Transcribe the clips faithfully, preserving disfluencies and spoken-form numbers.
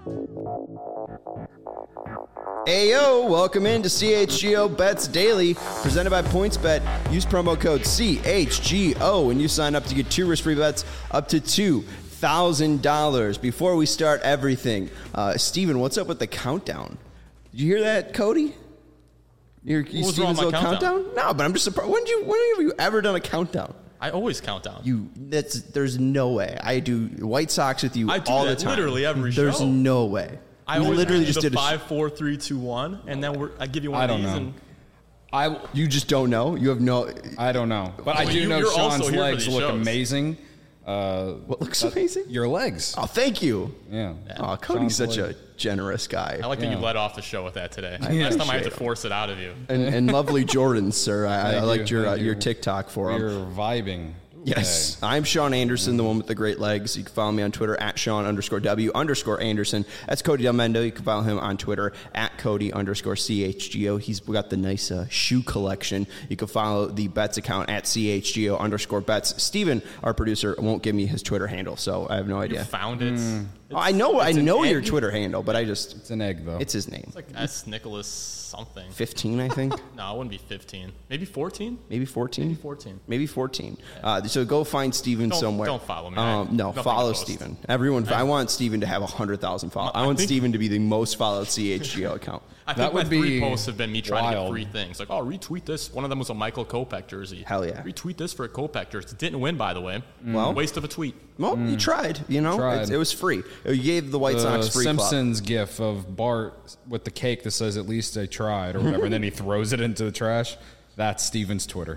Ayo, welcome into C H G O Bets Daily, presented by PointsBet. Use promo code C H G O when you sign up to get two risk-free bets up to two thousand dollars. Before we start everything, uh, Steven, what's up with the countdown? Did you hear that, Cody? Your, your Steven's little countdown? countdown? No, but I'm just surprised. When did you? When have you ever done a countdown? I always count down. You, that's there's no way. I do White Sox with you I do all that the time. Literally every there's show. There's no way. I we always literally just the did a five, four, three, two, one, and then we're, I give you one I of don't these. know. And I you just don't know. You have no. I don't know, but I Well, do you- know you're also Sean's here for legs these look shows. amazing. Uh, What looks amazing? your legs. Oh, thank you. Yeah. Oh, Cody's Sean's such legs. a generous guy. I like that Yeah. you led off the show with that today. Yeah. Last time I had to Appreciate it. force it out of you. And, and lovely Jordans, sir. I, I Thank liked you, your uh, thank your you. TikTok for him. You're vibing. Yes, today. I'm Sean Anderson, the one with the great legs. You can follow me on Twitter at Sean underscore W underscore Anderson. That's Cody Delmendo. You can follow him on Twitter at Cody underscore C H G O. He's got the nice uh, shoe collection. You can follow the Bets account at C H G O underscore Bets. Steven, our producer, won't give me his Twitter handle, so I have no You idea. found it. Mm. Oh, I know, I it's an know your egg. Twitter handle, but I just It's an egg, though. it's his name. It's like S. Nicholas something. fifteen, I think. No, it wouldn't be fifteen. Maybe fourteen? Maybe fourteen. Maybe fourteen. Maybe fourteen. Uh, so go find Steven Don't- somewhere. don't follow me. Um, no, Nothing follow to post. Steven. Everyone, I, want Steven to have one hundred thousand followers. I I want think- Steven to be the most followed C H G O account. I think That my would three be posts have been me trying wild. to get free things. Like, oh, retweet this. One of them was a Michael Kopech jersey. Hell yeah. Retweet this for a Kopech jersey. Didn't win, by the way. Well- Waste of a tweet. Well, you tried. You know, Tried. It's- it was free. You gave the White the Sox free clout. Simpsons gif of Bart with the cake that says "At least I tried" or whatever, and then he throws it into the trash. That's Steven's Twitter.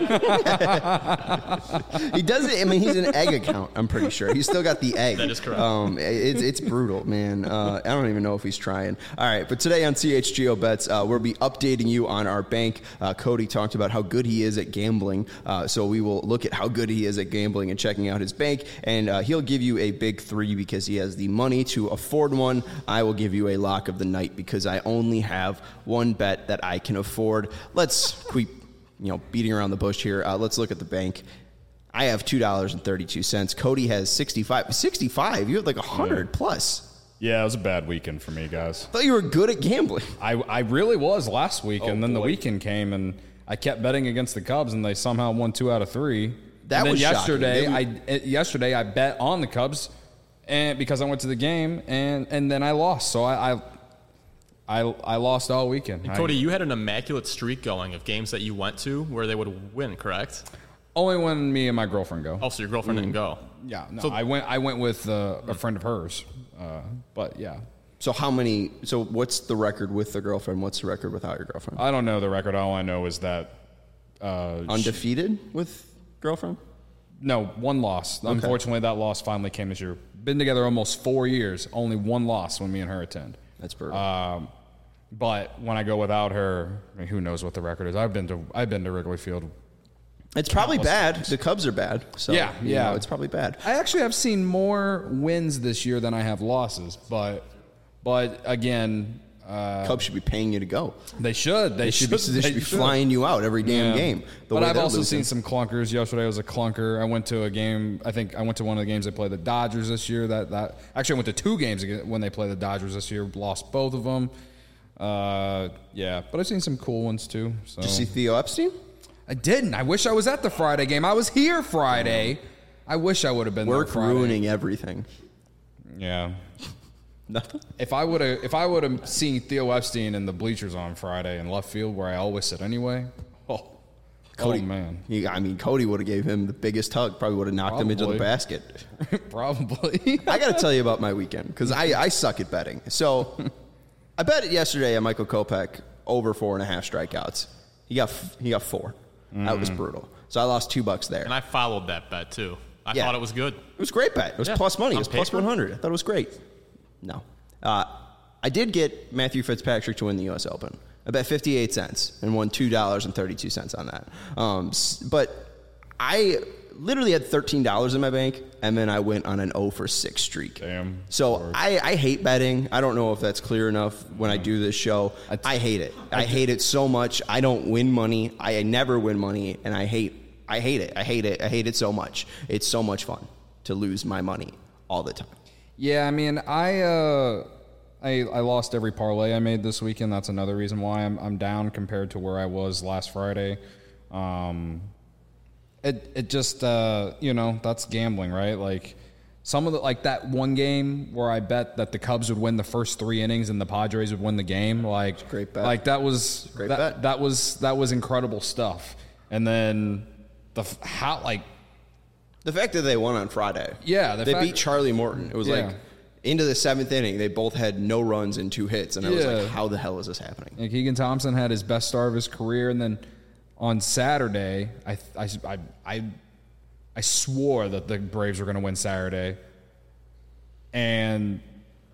He does it. I mean, he's an egg account. I'm pretty sure he's still got the egg. That is correct. Um, it's it's brutal, man. Uh, I don't even know if he's trying. All right, but today on C H G O Bets, uh, we'll be updating you on our bank. Uh, Cody talked about how good he is at gambling, uh, so we will look at how good he is at gambling and checking out his bank, and uh, he'll give you a big three because he has the money to afford one. I will give you a lock of the night because I only have one bet that I can afford. Let's quit, you know, beating around the bush here. Uh, let's look at the bank. I have two dollars and thirty-two cents. Cody has sixty-five. sixty-five? You had like one hundred plus. Yeah, it was a bad weekend for me, guys. I thought you were good at gambling. I, I really was last week, Oh, and then the boy. weekend came, and I kept betting against the Cubs, and they somehow won two out of three. That and then was shocking. yesterday. They- I eh, yesterday I bet on the Cubs, and because I went to the game, and, and then I lost. So I I I, I lost all weekend. And I- Cody, you had an immaculate streak going of games that you went to where they would win, correct? only when me and my girlfriend go. Oh, so your girlfriend didn't go. Yeah, no, So- I went. I went with uh, a friend of hers, uh, but yeah, So how many? So what's the record with the girlfriend? What's the record without your girlfriend? I don't know the record. All I know is that uh, she- Undefeated with girlfriend? no one loss. Unfortunately, that loss finally came this year. Been together almost four years. Only one loss when me and her attend. That's brutal. Um, but when I go without her, I mean, who knows what the record is? I've been to I've been to Wrigley Field. it's probably countless bad. times. The Cubs are bad. So Yeah, you yeah. know, it's probably bad. I actually have seen more wins this year than I have losses. But but again, uh, Cubs should be paying you to go. they should. They, They should, be, they should be flying you out every damn Yeah. game. The But way I've they're also losing. seen some clunkers. Yesterday was a clunker. I went to a game. I think I went to one of the games they played the Dodgers this year. That that actually I went to two games again when they played the Dodgers this year. Lost both of them. Uh, yeah, but I've seen some cool ones too. So. Did you see Theo Epstein? I didn't. I wish I was at the Friday game. I was here Friday. I wish I would have been Work there Friday. ruining everything. Yeah. Nothing. If I would have, if I would have seen Theo Epstein in the bleachers on Friday in left field where I always sit anyway. Oh, Cody, oh man. He, I mean, Cody would have gave him the biggest hug. Probably would have knocked him into the Probably. basket. Probably. I got to tell you about my weekend because I, I suck at betting. So I bet it yesterday on Michael Kopech over four and a half strikeouts. He got he got four. That was brutal. So I lost two bucks there. And I followed that bet, too. I Yeah. thought it was good. It was a great bet. It was Yeah. plus money. It On was plus paper. one hundred. I thought it was great. No. Uh, I did get Matthew Fitzpatrick to win the U S Open. I bet fifty-eight cents and won two dollars and thirty-two cents on that. Um, s- but I literally had thirteen dollars in my bank, and then I went on an oh for six streak. Damn. So I, I hate betting. I don't know if that's clear enough when I do this show. I t- I hate it. I hate it so much. I don't win money. I never win money, and I hate I hate it. I hate it. I hate it so much. It's so much fun to lose my money all the time. Yeah, I mean, I uh, I I lost every parlay I made this weekend. That's another reason why I'm I'm down compared to where I was last Friday. Um, it it just uh, you know, that's gambling, right? Like some of the like that one game where I bet that the Cubs would win the first three innings and the Padres would win the game. Like Great bet. Like that was Great that, bet. that was that was incredible stuff. And then the f- how like. The fact that they won on Friday. Yeah, the they fact- beat Charlie Morton. It was Yeah. like into the seventh inning, they both had no runs and two hits, and I was Yeah. like, "How the hell is this happening?" And Keegan Thompson had his best start of his career, and then on Saturday, I I I I, I swore that the Braves were going to win Saturday, and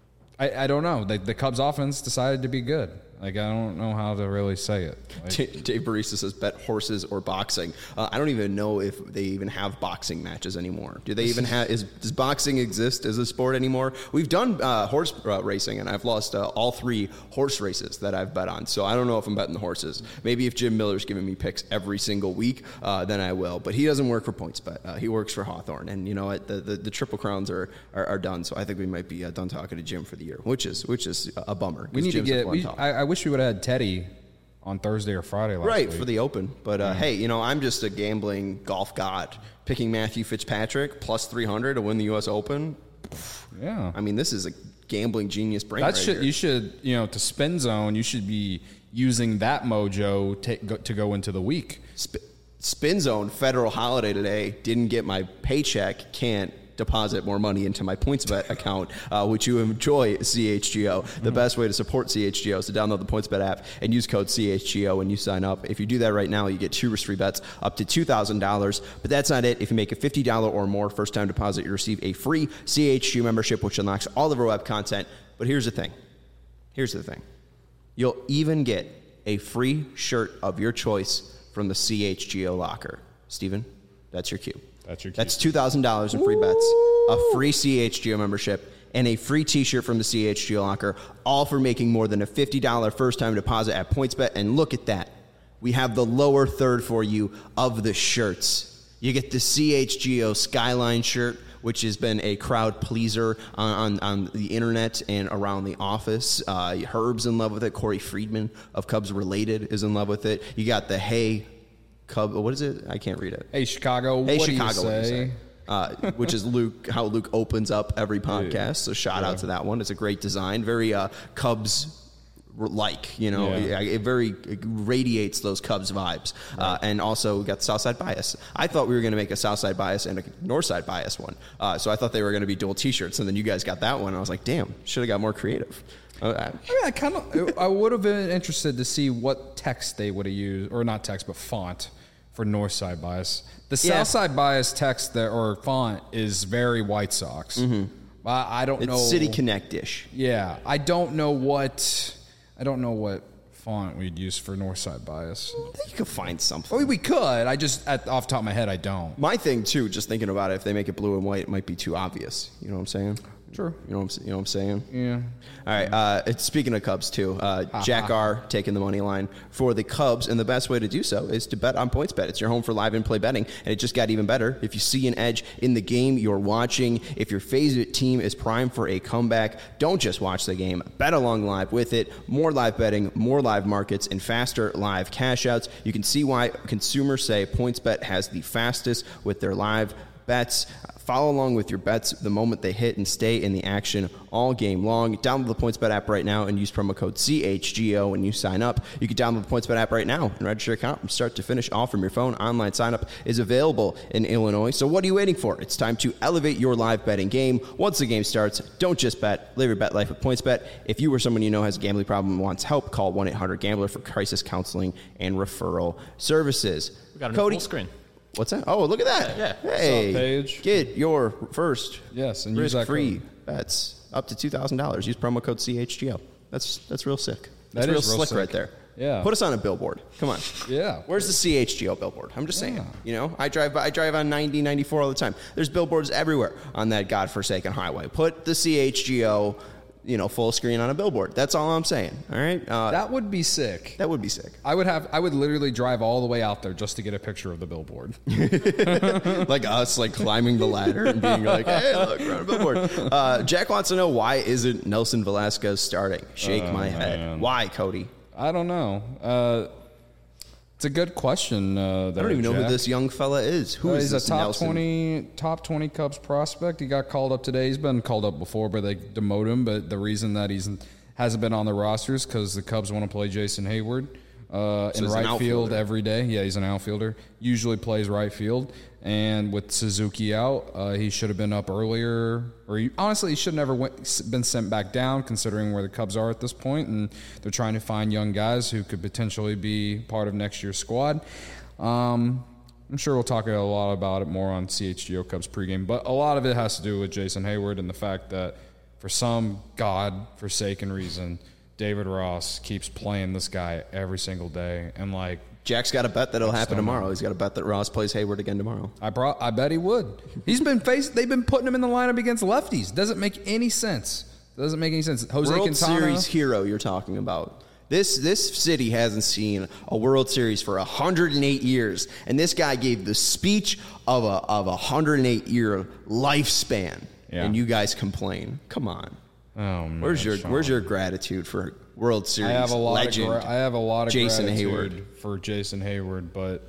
I I don't know. The, the Cubs offense decided to be good. Like, I don't know how to really say it. Like, D- Dave Barista says bet horses or boxing. Uh, I don't even know if they even have boxing matches anymore. Do they even have? Is does boxing exist as a sport anymore? We've done uh, horse uh, racing, and I've lost uh, all three horse races that I've bet on. So I don't know if I'm betting the horses. Maybe if Jim Miller's giving me picks every single week, uh, then I will. But he doesn't work for PointsBet. Uh, he works for Hawthorne, and you know what? The, the the Triple Crowns are, are are done. So I think we might be uh, done talking to Jim for the year, which is which is a bummer. we need Jim's to a get. fun We, talk. I, I wish we would have had Teddy on Thursday or Friday last Right, week. for the Open. But, uh, hey, you know, I'm just a gambling golf god. Picking Matthew Fitzpatrick plus three hundred to win the U S Open. Yeah. I mean, this is a gambling genius brain That right should here. you should you know to spin zone. You should be using that mojo to go, to go into the week. Sp- Spin Zone, federal holiday today. Didn't get my paycheck. Can't deposit more money into my PointsBet account, uh, which you enjoy C H G O. The Mm-hmm. best way to support C H G O is to download the PointsBet app and use code C H G O when you sign up. If you do that right now, you get two risk-free bets up to two thousand dollars. But that's not it. If you make a fifty dollars or more first-time deposit, you receive a free C H G O membership, which unlocks all of our web content. But here's the thing. Here's the thing. You'll even get a free shirt of your choice from the C H G O locker. Steven, that's your cue. That's your cue. That's two thousand dollars in free bets, a free C H G O membership, and a free T-shirt from the C H G O locker, all for making more than a fifty dollars first-time deposit at PointsBet. And look at that. We have the lower third for you of the shirts. You get the C H G O Skyline shirt, which has been a crowd pleaser on, on, on the internet and around the office. Uh, Herb's in love with it. Corey Friedman of Cubs Related is in love with it. You got the Hey Cub, what is it? I can't read it. Hey Chicago, Hey what Chicago, do you what do you say? say? Uh, which is Luke, how Luke opens up every podcast. So shout out to that one. It's a great design, very uh, Cubs like, you know, Yeah. it, it very it radiates those Cubs vibes. Uh, and also we got the Southside Bias. I thought we were going to make a Southside Bias and a Northside Bias one. Uh, so I thought they were going to be dual T-shirts, and then you guys got that one. And I was like, damn, should have got more creative. Uh, I- I mean, I kind of, I would have been interested to see what text they would have used, or not text, but font for Northside Bias. The Yeah. Southside Bias text there or font is very White Sox. Mm-hmm. I, I don't it's know. City Connect-ish. Yeah, I don't know what, I don't know what font we'd use for Northside Bias. I think you could find something. I mean, we could. I just, at, off the top of my head, I don't. My thing, too, just thinking about it, if they make it blue and white, it might be too obvious. You know what I'm saying? True. You know what I'm, you know what I'm saying? Yeah. All right. Uh, it's, speaking of Cubs, too, uh, Jack R. taking the money line for the Cubs, and the best way to do so is to bet on PointsBet. It's your home for live and play betting, and it just got even better. If you see an edge in the game you're watching, if your favorite team is primed for a comeback, don't just watch the game. Bet along live with it. More live betting, more live markets, and faster live cash outs. You can see why consumers say PointsBet has the fastest with their live bets. Follow along with your bets the moment they hit and stay in the action all game long. Download the PointsBet app right now and use promo code C H G O when you sign up. You can download the PointsBet app right now and register your account from start to finish, all from your phone. Online sign-up is available in Illinois. So what are you waiting for? It's time to elevate your live betting game. Once the game starts, don't just bet. Live your bet life with PointsBet. If you or someone you know has a gambling problem and wants help, call one eight hundred gambler for crisis counseling and referral services. We got a Cody, full screen. What's that? Oh, look at that. Yeah. Hey, What's up, Paige? get your first Yes, and use that risk-free code. bets up to two thousand dollars. Use promo code C H G O. That's that's real sick. That's That real is real slick sick. right there. Yeah. Put us on a billboard. Come on. Yeah. Where's the C H G O billboard? I'm just saying. Yeah. You know, I drive I drive on ninety, ninety-four all the time. There's billboards everywhere on that godforsaken highway. Put the C H G O you know, full screen on a billboard. That's all I'm saying. All right, uh, That would be sick. that would be sick. I would have. I would literally drive all the way out there just to get a picture of the billboard. Like us, like climbing the ladder and being like, "Hey, look, we're on a billboard." Uh, Jack wants to know, why isn't Nelson Velasquez starting? Shake my head. man. Why, Cody? I don't know. Uh, it's a good question. Uh, I don't even know who this young fella is. Who Uh, is he's this a top Nelson? twenty, top twenty Cubs prospect. He got called up today. He's been called up before, but they demoted him. But the reason that he's hasn't been on the roster is because the Cubs want to play Jason Hayward uh, in he's an right field outfielder. every day. Yeah, he's an outfielder. Usually plays right field. And with Suzuki out, uh, he should have been up earlier. Or he, honestly, he should have never went, been sent back down, considering where the Cubs are at this point. And they're trying to find young guys who could potentially be part of next year's squad. Um, I'm sure we'll talk a lot about it more on C H G O Cubs pregame, but a lot of it has to do with Jason Hayward and the fact that for some God-forsaken reason, David Ross keeps playing this guy every single day. And, like, Jack's got a bet that'll happen stunning. tomorrow. He's got a bet that Ross plays Hayward again tomorrow. I brought, I bet he would. He's been faced. They've been putting him in the lineup against lefties. Doesn't make any sense. Doesn't make any sense. Jose World Quintana. Series hero you're talking about. This this city hasn't seen a World Series for one hundred eight years, and this guy gave the speech of a of a one hundred eight year lifespan, Yeah. and you guys complain. Come on, Oh man, where's your Sean. where's your gratitude for World Series I have a lot legend? of gra- I have a lot of Jason gratitude Hayward. for Jason Hayward, but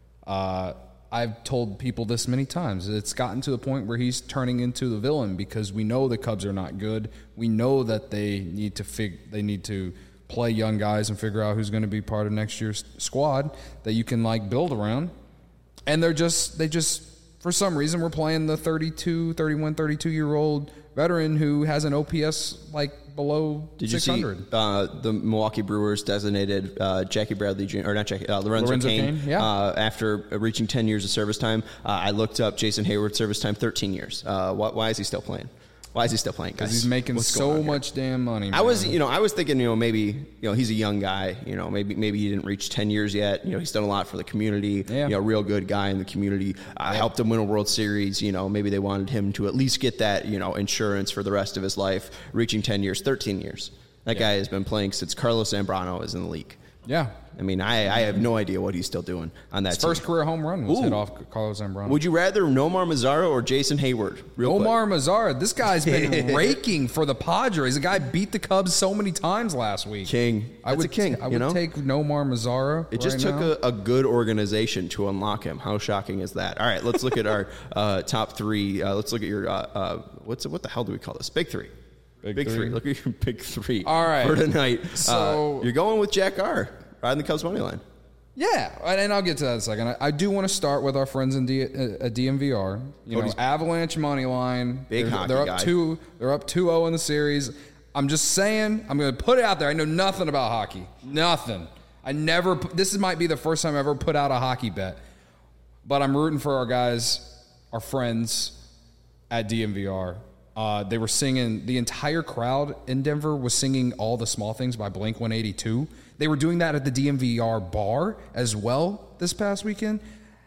uh, I've told people this many times. It's gotten to the point where he's turning into the villain because we know the Cubs are not good. We know that they need to fig- they need to play young guys and figure out who's going to be part of next year's squad that you can like build around. And they're just they just for some reason we're playing the thirty-two, thirty-one, thirty-two year old veteran who has an O P S like below Did you six see hundred. uh, the Milwaukee Brewers designated uh, Jackie Bradley Junior or not Jackie uh, Lorenzo, Lorenzo Cain, Cain, yeah. uh, after reaching ten years of service time? Uh, I looked up Jason Hayward's service time, thirteen years. Uh, why, why is he still playing? Why is he still playing, guys? Because he's making What's going so on here? much damn money. I was, man. you know, I was thinking, you know, maybe, you know, he's a young guy. You know, maybe maybe he didn't reach ten years yet. You know, he's done a lot for the community. Yeah. You know, real good guy in the community. I uh, helped him win a World Series. You know, maybe they wanted him to at least get that, you know, insurance for the rest of his life. Reaching ten years, thirteen years. That Yeah. guy has been playing since Carlos Zambrano is in the league. Yeah. I mean, I, I have no idea what he's still doing on that His team. first career home run was Ooh. hit off Carlos Zambrano. Would you rather Nomar Mazara or Jason Hayward? Real quick. Omar Mazara, this guy's been raking for the Padres. The guy beat the Cubs so many times last week. King. I That's would a king, I you would know? take Nomar Mazara. It just right took now. a, a good organization to unlock him. How shocking is that? All right, let's look at our uh, top three. Uh, let's look at your uh, uh, what's what the hell do we call this? Big three. Big three. three. Look at your big three. All right. for tonight. So- uh, you're going with Jack R. Riding the Cubs money line. Yeah, and and I'll get to that in a second. I, I do want to start with our friends in D, uh, D M V R. You Cody's- know, Avalanche money line. Big they're, hockey they're up guy. two. They're up two zero in the series. I'm just saying. I'm going to put it out there. I know nothing about hockey. Nothing. I never. pu- This is, might be the first time I ever put out a hockey bet. But I'm rooting for our guys, our friends at D M V R. Uh, they were singing. The entire crowd in Denver was singing "All the Small Things" by Blink one eighty-two. They were doing that at the D M V R bar as well this past weekend.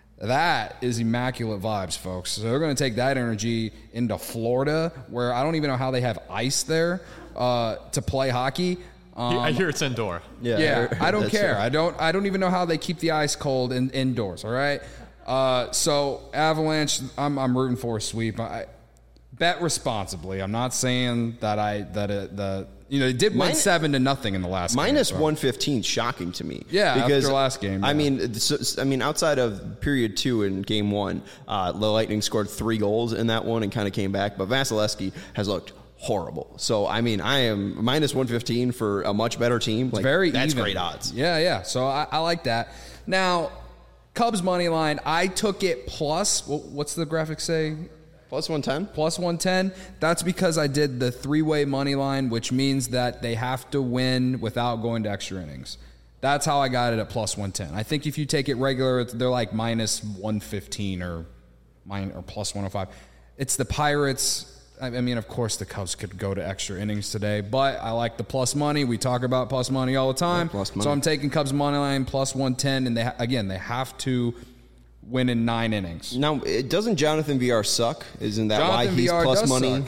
That is immaculate vibes, folks. So they're going to take that energy into Florida, where I don't even know how they have ice there uh, to play hockey. Um, I hear it's indoor. yeah, I don't that's care. right. I don't. I don't even know how they keep the ice cold in, indoors. All right. Uh, so Avalanche, I'm I'm rooting for a sweep. I bet responsibly. I'm not saying that I that it, the you know they did win Mine- seven to nothing in the last Minus game, so. one fifteen, shocking to me. Yeah, because after last game, I yeah. mean, so, I mean, outside of period two in game one, uh, the Lightning scored three goals in that one and kind of came back. But Vasilevsky has looked horrible. So I mean, I am minus one fifteen for a much better team. Like, Very that's even. great odds. Yeah, yeah. So I, I like that. Now, Cubs money line. I took it plus. wh- What's the graphic say? Plus one ten. Plus one ten. That's because I did the three-way money line, which means that they have to win without going to extra innings. That's how I got it at plus one ten. I think if you take it regular, it's- they're like minus one fifteen or mine or plus one oh five. It's the Pirates. I I mean, of course, the Cubs could go to extra innings today, but I like the plus money. We talk about plus money all the time. Yeah, plus money. So I'm taking Cubs money line plus one ten, and they ha- again they have to win in nine innings. Now, it, doesn't Jonathan V R suck? Isn't that why Jonathan he's V R plus does money? suck.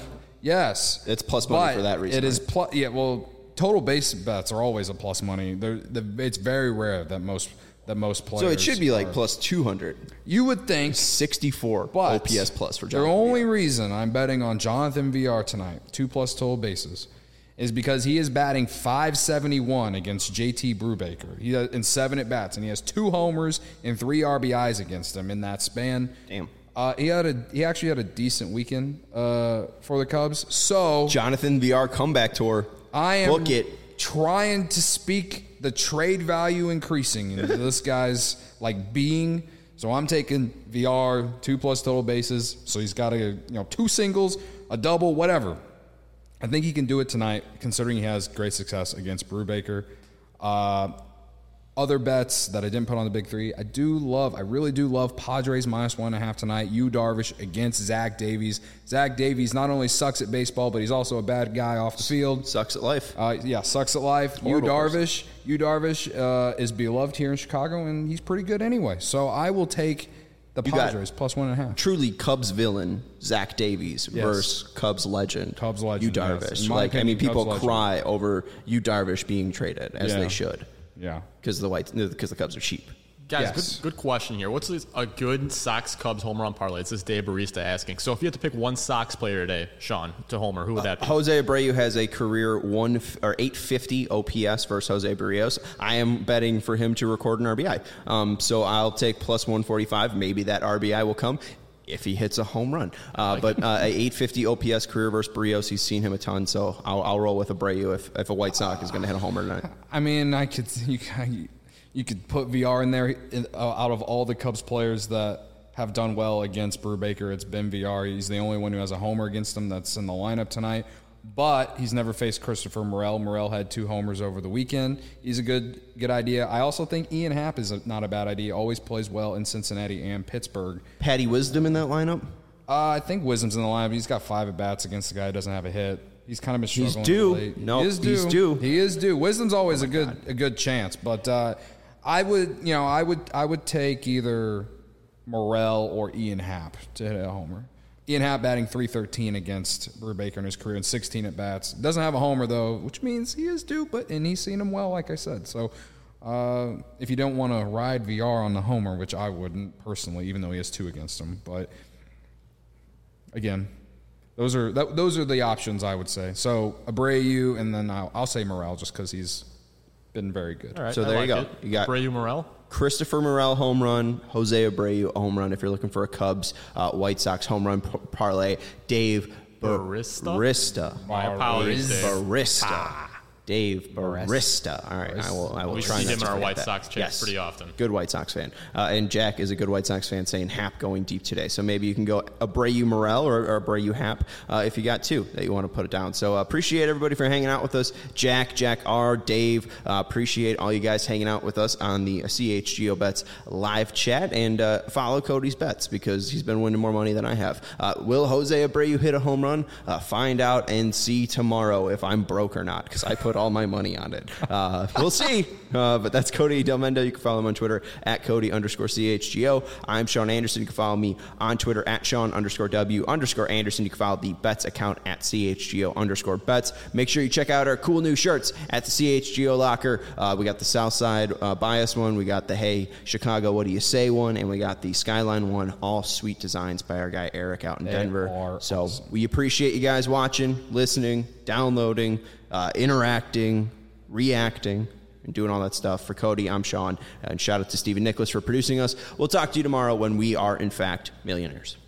Yes. It's plus money but for that reason. It is right? plus. Yeah. Well, total base bets are always a plus money. They're, the, it's very rare that most that most players. So it should be like are. plus two hundred. You would think. sixty-four But O P S plus for the Jonathan. only reason I'm betting on Jonathan V R tonight, two plus total bases, is because he is batting five seventy-one against J T Brubaker. He has, in seven at bats, and he has two homers and three R B Is against him in that span. Damn. Uh, he had a he actually had a decent weekend uh, for the Cubs. So Jonathan V R comeback tour. I am Book it. trying to speak the trade value increasing into this guy's like being. So I'm taking V R two plus total bases. So he's got a you know two singles, a double, whatever. I think he can do it tonight, considering he has great success against Brubaker. Uh, other bets that I didn't put on the big three, I do love, I really do love Padres minus one and a half tonight. Yu Darvish against Zach Davies. Zach Davies not only sucks at baseball, but he's also a bad guy off the field. Sucks at life. Uh, yeah, sucks at life. Yu Horrible Darvish, Yu Darvish uh, is beloved here in Chicago, and he's pretty good anyway. So I will take the You got- Padres plus one and a half. Truly Cubs villain Zach Davies Yes. versus Cubs legend Cubs legend, Yu yes. Darvish. In my Like I mean, opinion, people Cubs cry over Yu Darvish being traded as Yeah. they should Yeah. because the white because the Cubs are cheap. Guys, Yes. good, good question here. What's this, a good Sox Cubs home run parlay? It's this Dave Barista asking. So if you had to pick one Sox player today, Sean, to homer, who would that be? Jose Abreu has a career one f- or eight fifty O P S versus Jose Barrios. I am betting for him to record an R B I. Um, so I'll take plus one forty-five. Maybe that R B I will come if he hits a home run. Uh, but uh, a eight fifty O P S career versus Barrios, he's seen him a ton. So I'll, I'll roll with Abreu if, if a White Sox is going to hit a homer tonight. I mean, I could you, you could put V R in there. In, uh, out of all the Cubs players that have done well against Brubaker, it's been V R. He's the only one who has a homer against him that's in the lineup tonight. But he's never faced Christopher Morel. Morel had two homers over the weekend. He's a good good idea. I also think Ian Happ is a, not a bad idea. Always plays well in Cincinnati and Pittsburgh. Patty Wisdom in that lineup? Uh, I think Wisdom's in the lineup. He's got five at bats against the guy who doesn't have a hit. He's kind of been He's struggling. due. Late. No, he is due. he's due. He is due. Wisdom's always a good a good chance, but uh, I would you know I would I would take either Morel or Ian Happ to hit a homer. Ian Happ batting three thirteen against Brubaker in his career and sixteen at bats. Doesn't have a homer though, which means he is due, but and he's seen him well, like I said. So uh, if you don't want to ride V R on the homer, which I wouldn't personally, even though he has two against him, but again, those are that, those are the options I would say. So Abreu, and then I'll, I'll say Morel just because he's been very good. All right, So I there you like go. it. You got- Abreu Morel. Christopher Morel home run, Jose Abreu home run if you're looking for a Cubs uh, White Sox home run p- parlay. Dave Barista? Barista. My apologies, Dave. Barista. Dave Barista. All right, I will. I will We try see not him to in our forget White that. Sox chats Yes. pretty often. Good White Sox fan. Uh, and Jack is a good White Sox fan, saying Hap going deep today. So maybe you can go Abreu Morel or, or Abreu Hap uh, if you got two that you want to put it down. So uh, appreciate everybody for hanging out with us. Jack, Jack R, Dave. Uh, appreciate all you guys hanging out with us on the C H G O Bets live chat, and uh, follow Cody's bets because he's been winning more money than I have. Uh, will Jose Abreu hit a home run? Uh, find out and see tomorrow if I'm broke or not because I put all my money on it. Uh, we'll see. Uh, but that's Cody Del Mendo. You can follow him on Twitter at Cody underscore C H G O. I'm Sean Anderson. You can follow me on Twitter at Sean underscore W underscore Anderson. You can follow the Bets account at C H G O underscore Bets. Make sure you check out our cool new shirts at the C H G O locker. Uh, we got the Southside uh, Bias one. We got the Hey Chicago, What Do You Say one. And we got the Skyline one. All sweet designs by our guy Eric out in They Denver. are So awesome. we appreciate you guys watching, listening, downloading, uh, interacting, reacting, and doing all that stuff. For Cody, I'm Sean, and shout out to Stephen Nicholas for producing us. We'll talk to you tomorrow when we are, in fact, millionaires.